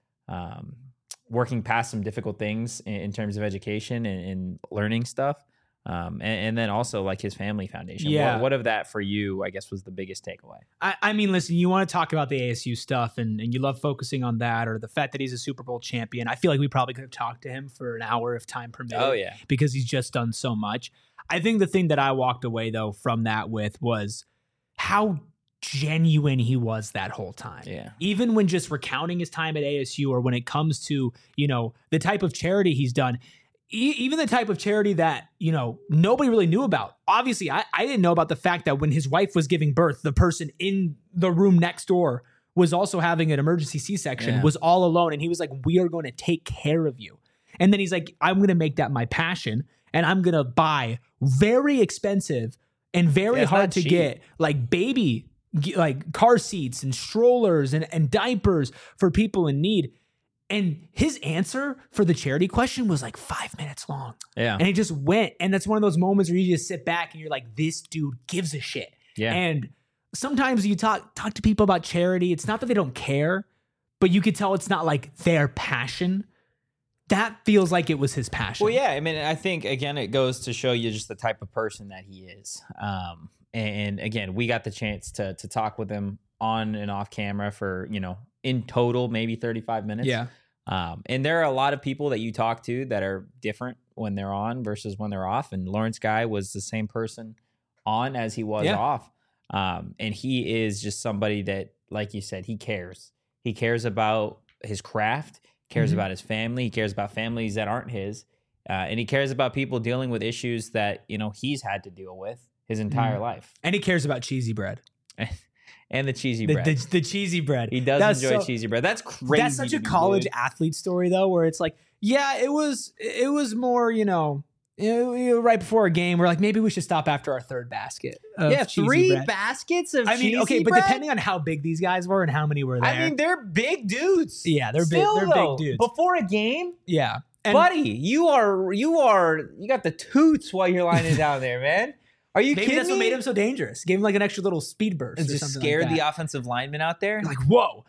working past some difficult things in terms of education and learning stuff. And then also like his family foundation. Yeah. What of that for you, I guess, was the biggest takeaway? I mean, listen, you want to talk about the ASU stuff and you love focusing on that or the fact that he's a Super Bowl champion. I feel like we probably could have talked to him for an hour if time permitted. Oh, yeah. Because he's just done so much. I think the thing that I walked away, though, from that with was how genuine he was that whole time. Yeah. Even when just recounting his time at ASU or when it comes to, the type of charity he's done, even the type of charity that, nobody really knew about. Obviously, I didn't know about the fact that when his wife was giving birth, the person in the room next door was also having an emergency C-section, was all alone. And he was like, we are going to take care of you. And then he's like, I'm going to make that my passion. And I'm going to buy very expensive and very hard to get like baby, like car seats and strollers and diapers for people in need. And his answer for the charity question was like 5 minutes long. Yeah. And he just went. And that's one of those moments where you just sit back and you're like, this dude gives a shit. Yeah. And sometimes you talk to people about charity. It's not that they don't care, but you could tell it's not like their passion. That feels like it was his passion. Well, yeah. I mean, I think, again, it goes to show you just the type of person that he is. And again, we got the chance to talk with him on and off camera for, in total, maybe 35 minutes. Yeah. And there are a lot of people that you talk to that are different when they're on versus when they're off. And Lawrence Guy was the same person on as he was off. And he is just somebody that, like you said, he cares. He cares about his craft, cares about his family. He cares about families that aren't his. And he cares about people dealing with issues that, he's had to deal with his entire life. And he cares about cheesy bread. And the cheesy bread. The cheesy bread. He does enjoy cheesy bread. That's crazy. That's such a college athlete story, though, where it's like, yeah, it was more, right before a game, we're like, maybe we should stop after our third basket. Yeah, cheesy 3 bread. baskets of cheesy cheesy but bread? depending on how big these guys were and how many were there. I mean, they're big dudes. Yeah, they're Still, big. They're though, big dudes. Before a game, Yeah, and buddy, you got the toots while you're lining down there, man. Are you maybe kidding that's me? what made him so dangerous. Gave him like an extra little speed burst. And or just something scared like that. the offensive lineman out there. Like, whoa.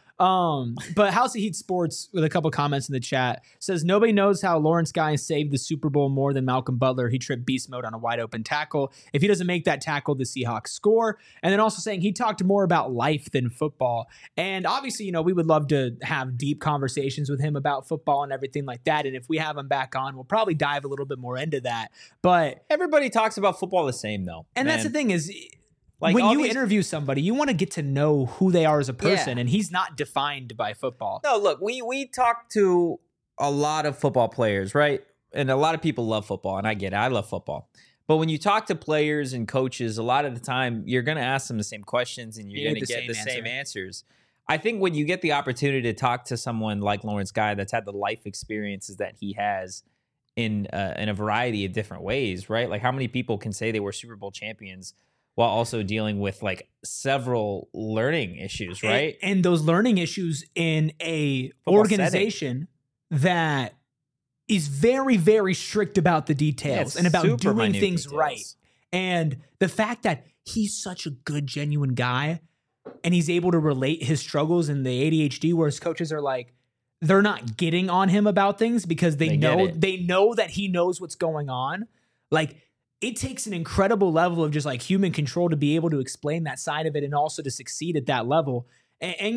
But House of Heat Sports, with a couple comments in the chat, says nobody knows how Lawrence Guy saved the Super Bowl more than Malcolm Butler. He tripped beast mode on a wide open tackle. If he doesn't make that tackle, the Seahawks score. And then also saying he talked more about life than football. And obviously, we would love to have deep conversations with him about football and everything like that. And if we have him back on, we'll probably dive a little bit more into that. But everybody talks about football the same, though. And man. that's the thing is, like when you interview somebody, you want to get to know who they are as a person, and he's not defined by football. No, look, we talk to a lot of football players, right? And a lot of people love football, and I get it. I love football. But when you talk to players and coaches, a lot of the time, you're going to ask them the same questions, and you're going to get the same answers. I think when you get the opportunity to talk to someone like Lawrence Guy that's had the life experiences that he has in a variety of different ways, right? Like how many people can say they were Super Bowl champions while also dealing with like several learning issues, right? And those learning issues in a Football organization that is very, very strict about the details and about doing things right. And the fact that he's such a good, genuine guy and he's able to relate his struggles and the ADHD, where his coaches are like, they're not getting on him about things because they know that he knows what's going on. Like, it takes an incredible level of just like human control to be able to explain that side of it and also to succeed at that level. And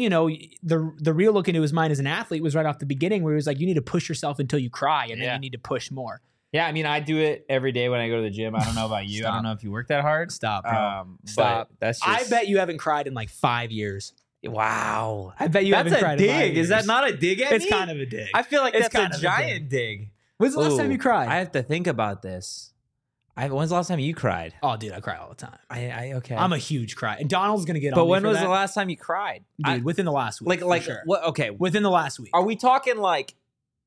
the real look into his mind as an athlete was right off the beginning, where he was like, you need to push yourself until you cry, and then you need to push more. Yeah, I mean, I do it every day when I go to the gym. I don't know about you. I don't know if you work that hard. Stop, bro. Stop. That's just... I bet you haven't cried in like 5 years. Wow. I bet you haven't cried in 5 years. Is that not a dig at me? It's kind of a dig. I feel like it's that's a giant dig. When's the last time you cried? I have to think about this. When's the last time you cried? Oh, dude, I cry all the time. Okay. I'm a huge cry. And Donald's going to get on me. But when was the last time you cried? Dude, within the last week. Like sure. What? Okay. Within the last week. Are we talking like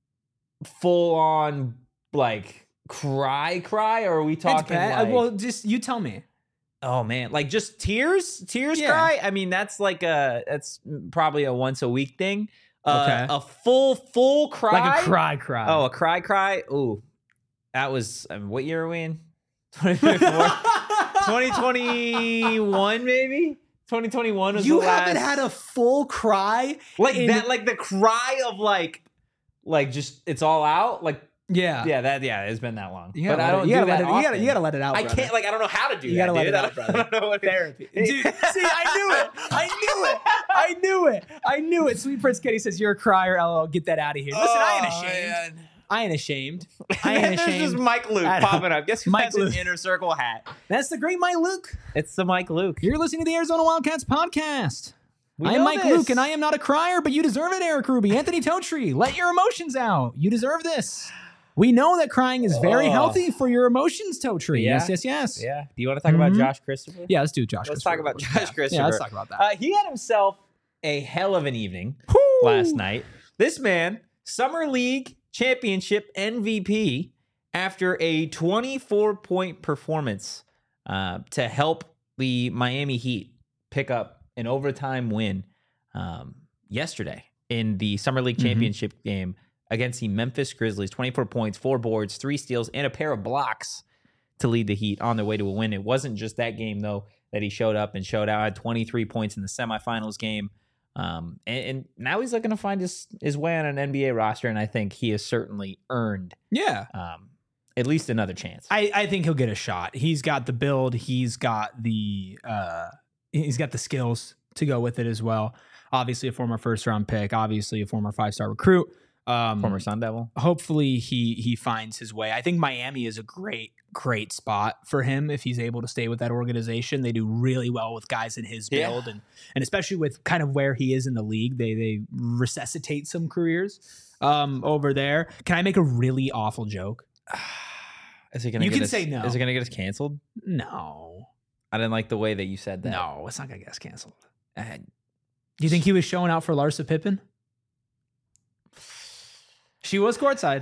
full on like cry, or are we talking like... Well, just you tell me. Oh man, like just tears cry? I mean, that's probably a once a week thing. A full cry? Like a cry. Oh, a cry? Ooh. That was, what year are we in? 2024? 2021 maybe. 2021 was You the last. haven't had a full cry like in- that, like the cry of like just it's all out. Like Yeah. it's been that long. You But I don't you do gotta that let it, often. you gotta let it out. I brother. can't. Like I don't know how to do You that. gotta let dude. it out, brother. I don't know what Therapy. Dude, see, I knew it. Sweet Prince Kenny says, you're a crier, LOL. Get that out of here. Listen, I ain't ashamed. I ain't ashamed. There's just Mike Luke Adam. popping up. Guess who Mike has Luke. an inner circle hat? That's the great Mike Luke. It's the Mike Luke. You're listening to the Arizona Wildcats podcast. We I am know Mike this. Luke, and I am not a crier, but you deserve it, Eric Ruby. Anthony Totri, let your emotions out. You deserve this. We know that crying is very healthy for your emotions, Totri. Yeah. Yes. Yeah. Do you want to talk about Josh Christopher? Yeah, let's do Josh. Let's Christopher. talk about Josh Christopher. Yeah, let's talk about that. He had himself a hell of an evening last night. This man, Summer League Championship MVP, after a 24-point performance to help the Miami Heat pick up an overtime win yesterday in the Summer League Championship game against the Memphis Grizzlies. 24 points, 4 boards, 3 steals, and a pair of blocks to lead the Heat on their way to a win. It wasn't just that game, though, that he showed up and showed out. Had 23 points in the semifinals game. And now he's looking to find his way on an NBA roster, and I think he has certainly earned at least another chance. I think he'll get a shot. He's got the build. He's got the skills to go with it as well. Obviously, a former first-round pick. Obviously, a former 5-star recruit. Former Sun Devil. Hopefully, he finds his way. I think Miami is a great spot for him if he's able to stay with that organization. They do really well with guys in his build, and especially with kind of where he is in the league, they resuscitate some careers over there. Can I make a really awful joke? Is it gonna? You get can us, say no. Is it going to get us canceled? No. I didn't like the way that you said that. No, it's not going to get us canceled. Do you think he was showing out for Larsa Pippen? She was courtside.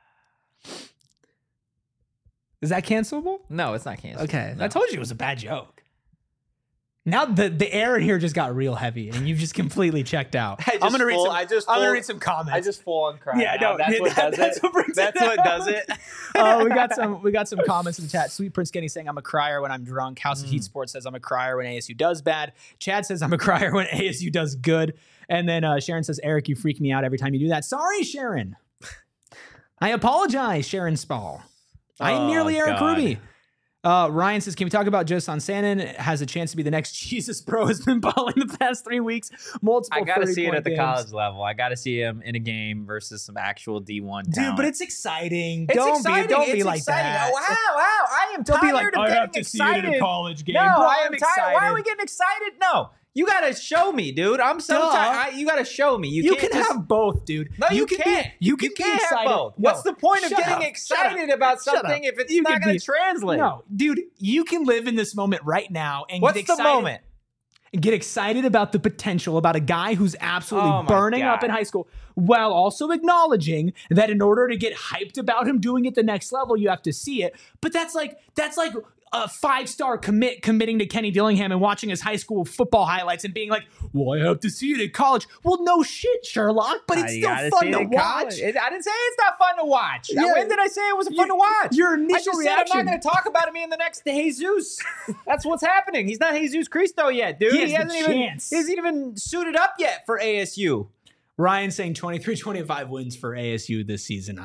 Is that cancelable? No, it's not canceled. Okay. No. I told you it was a bad joke. Now the air in here just got real heavy, and you've just completely checked out. I'm gonna read some comments. I just full on cry. Yeah, now. no, That's what does that's it. what brings That's it what out. does it. We got some comments in the chat. Sweet Prince Kenny saying I'm a crier when I'm drunk. House of Heat Sports says I'm a crier when ASU does bad. Chad says I'm a crier when ASU does good. And then Sharon says, Eric, you freak me out every time you do that. Sorry, Sharon. I apologize, Sharon Spall. I am merely Eric God. Ruby. Ryan says, can we talk about Joe Sansanin? Has a chance to be the next Jesus Pro. Has been balling the past 3 weeks. Multiple I got to see it 30-point at the games. college level. I got to see him in a game versus some actual D1 Dude, talent. but it's exciting. It's Don't exciting. be It's like exciting. that. Oh, wow. I am Don't tired be like, of I getting have to excited. see it at a college game. No, Bro, I I'm am tired. Why excited. are we getting excited? No. You got to show me, dude. I'm so Duh. tired. You got to show me. You can't can just- have both, dude. No, you can't. You can be can't excited. have both. No. What's the point of Shut getting up. excited about Shut up. something if it's You not can going be- to translate? No, dude, you can live in this moment right now and What's get excited. the moment? Get excited about the potential, about a guy who's absolutely Oh my burning God. up in high school, while also acknowledging that in order to get hyped about him doing it the next level, you have to see it. But that's like a 5-star committing to Kenny Dillingham and watching his high school football highlights and being like, well, I have to see it in college. Well, no shit, Sherlock, but it's You still gotta fun see it to in watch. college. I didn't say it's not fun to watch. Yeah. When did I say it wasn't fun to watch? Your I initial just reaction. said I'm not going to talk about him being the next Jesus. That's what's happening. He's not Jesus Cristo yet, dude. He has the hasn't chance. He hasn't even suited up yet for ASU. Ryan saying 23-25 wins for ASU this season.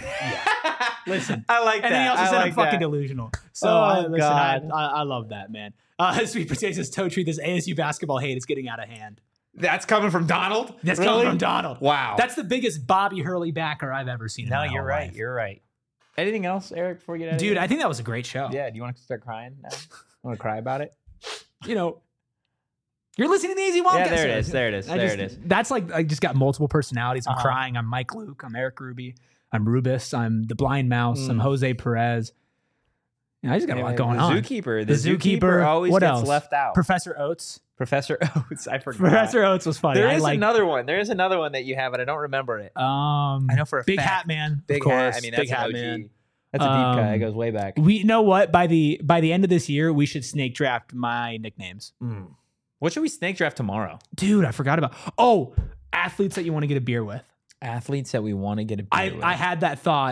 Listen. I like that. And then he also I said like I'm fucking that. delusional. So Oh, listen, God. I love that, man. Sweet Potato says, Totri, this ASU basketball hate is getting out of hand. That's coming from Donald? That's Really? coming from Donald. Wow. That's the biggest Bobby Hurley backer I've ever seen. No, in my you're whole right. life. You're right. Anything else, Eric, before we get out of Dude, here? I think that was a great show. Yeah, do you want to start crying now? Want to cry about it? You know, you're listening to the Easy Wildcats. Yeah, there it is. There it is. That's like, I just got multiple personalities. I'm Uh-huh. crying. I'm Mike Luke. I'm Eric Ruby. I'm Rubus. I'm the Blind Mouse. I'm Jose Perez. Yeah, I just got a lot going on. Zookeeper. The The Zookeeper. zookeeper always What gets else? left out. Professor Oates. Professor Oates. I forgot. Professor Oates was funny. There I is like, another one. There is another one that you have, and I don't remember it. I know for a Big fact. Hat Man. Big of course. Hat. I mean, that's Big an Hat OG. Man. That's a deep cut. It goes way back. We know what by the end of this year we should snake draft my nicknames. What should we snake draft tomorrow? Dude, I forgot about. Athletes that you want to get a beer with. Athletes that we want to get a beer with. I had that thought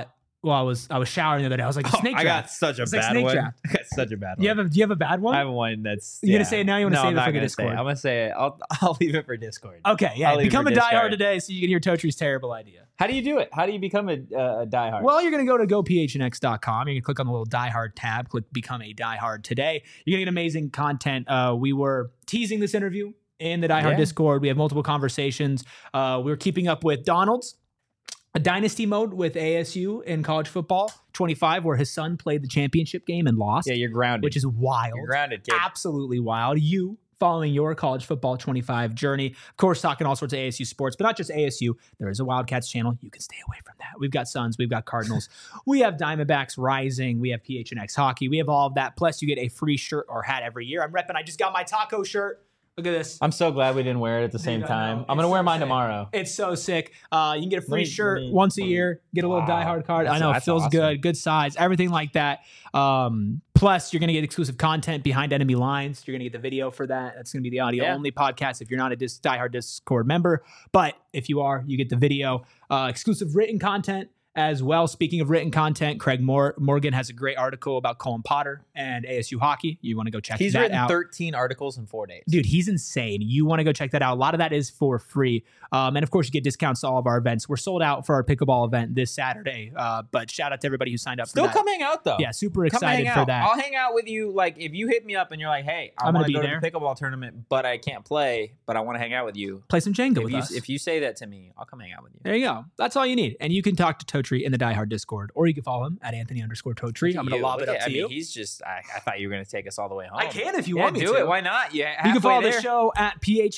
Well, I was showering the other day. I was like, snake I draft. got such a It's like bad snake one. draft. I got such a bad Do one. you have a bad one? I have one that's. You gonna say it now? You want to No, save I'm it not for the gonna say it. Discord? I'm gonna say it. I'll leave it for Discord. Okay, yeah. I'll leave it Become for a Discord. diehard today so you can hear Totri's terrible idea. How do you do it? How do you become a diehard? Well, you're going to go to gophnx.com. You're going to click on the little diehard tab, click become a diehard today. You're going to get amazing content. We were teasing this interview in the diehard Discord. We have multiple conversations. We're keeping up with Donald's a dynasty mode with ASU in college football 25, where his son played the championship game and lost. Yeah, you're grounded. Which is wild. You're grounded, kid. Absolutely wild. You following your college football 25 journey. Of course, talking all sorts of ASU sports, but not just ASU. There is a Wildcats channel. You can stay away from that. We've got Suns. We've got Cardinals. We have Diamondbacks Rising. We have PHNX Hockey. We have all of that. Plus, you get a free shirt or hat every year. I'm repping. I just got my taco shirt. Look at this. I'm so glad we didn't wear it at the same time. I'm going to wear mine tomorrow. It's so sick. You can get a free shirt once a year. Get a little diehard card. I know it feels good. Good size. Everything like that. Plus, you're going to get exclusive content behind enemy lines. You're going to get the video for that. That's going to be the audio only podcast if you're not a diehard Discord member. But if you are, you get the video. Exclusive written content as well. Speaking of written content, Craig Morgan has a great article about Colin Potter and ASU hockey. You want to go check that out. He's written 13 articles in 4 days. Dude, he's insane. You want to go check that out. A lot of that is for free. And of course, you get discounts to all of our events. We're sold out for our pickleball event this Saturday. But shout out to everybody who signed up for that. Still come hang out, though. Yeah, super excited for that. I'll hang out with you. Like, if you hit me up and you're like, hey, I want to go to the pickleball tournament, but I can't play, but I want to hang out with you. Play some Jenga with us. If you say that to me, I'll come hang out with you. There you go. That's all you need. And you can talk to Totri in the diehard Discord, or you can follow him at Anthony_Totri. I'm going to lob it up to you. He's just, I thought you were going to take us all the way home. I can if you want me to. Do it. Why not? Yeah, you can follow the show at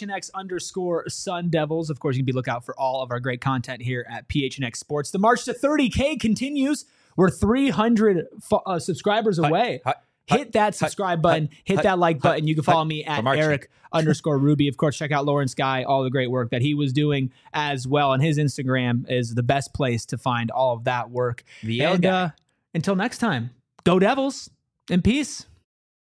PHNX_Sun Devils. Of course, you can be lookout for all of our great content here at PHNX Sports. The march to 30K continues. We're 300 subscribers away. Hit that subscribe button. Hit that like button. You can follow me at Eric_Ruby. Of course, check out Lawrence Guy, all the great work that he was doing as well. And his Instagram is the best place to find all of that work. Until next time, go Devils and peace.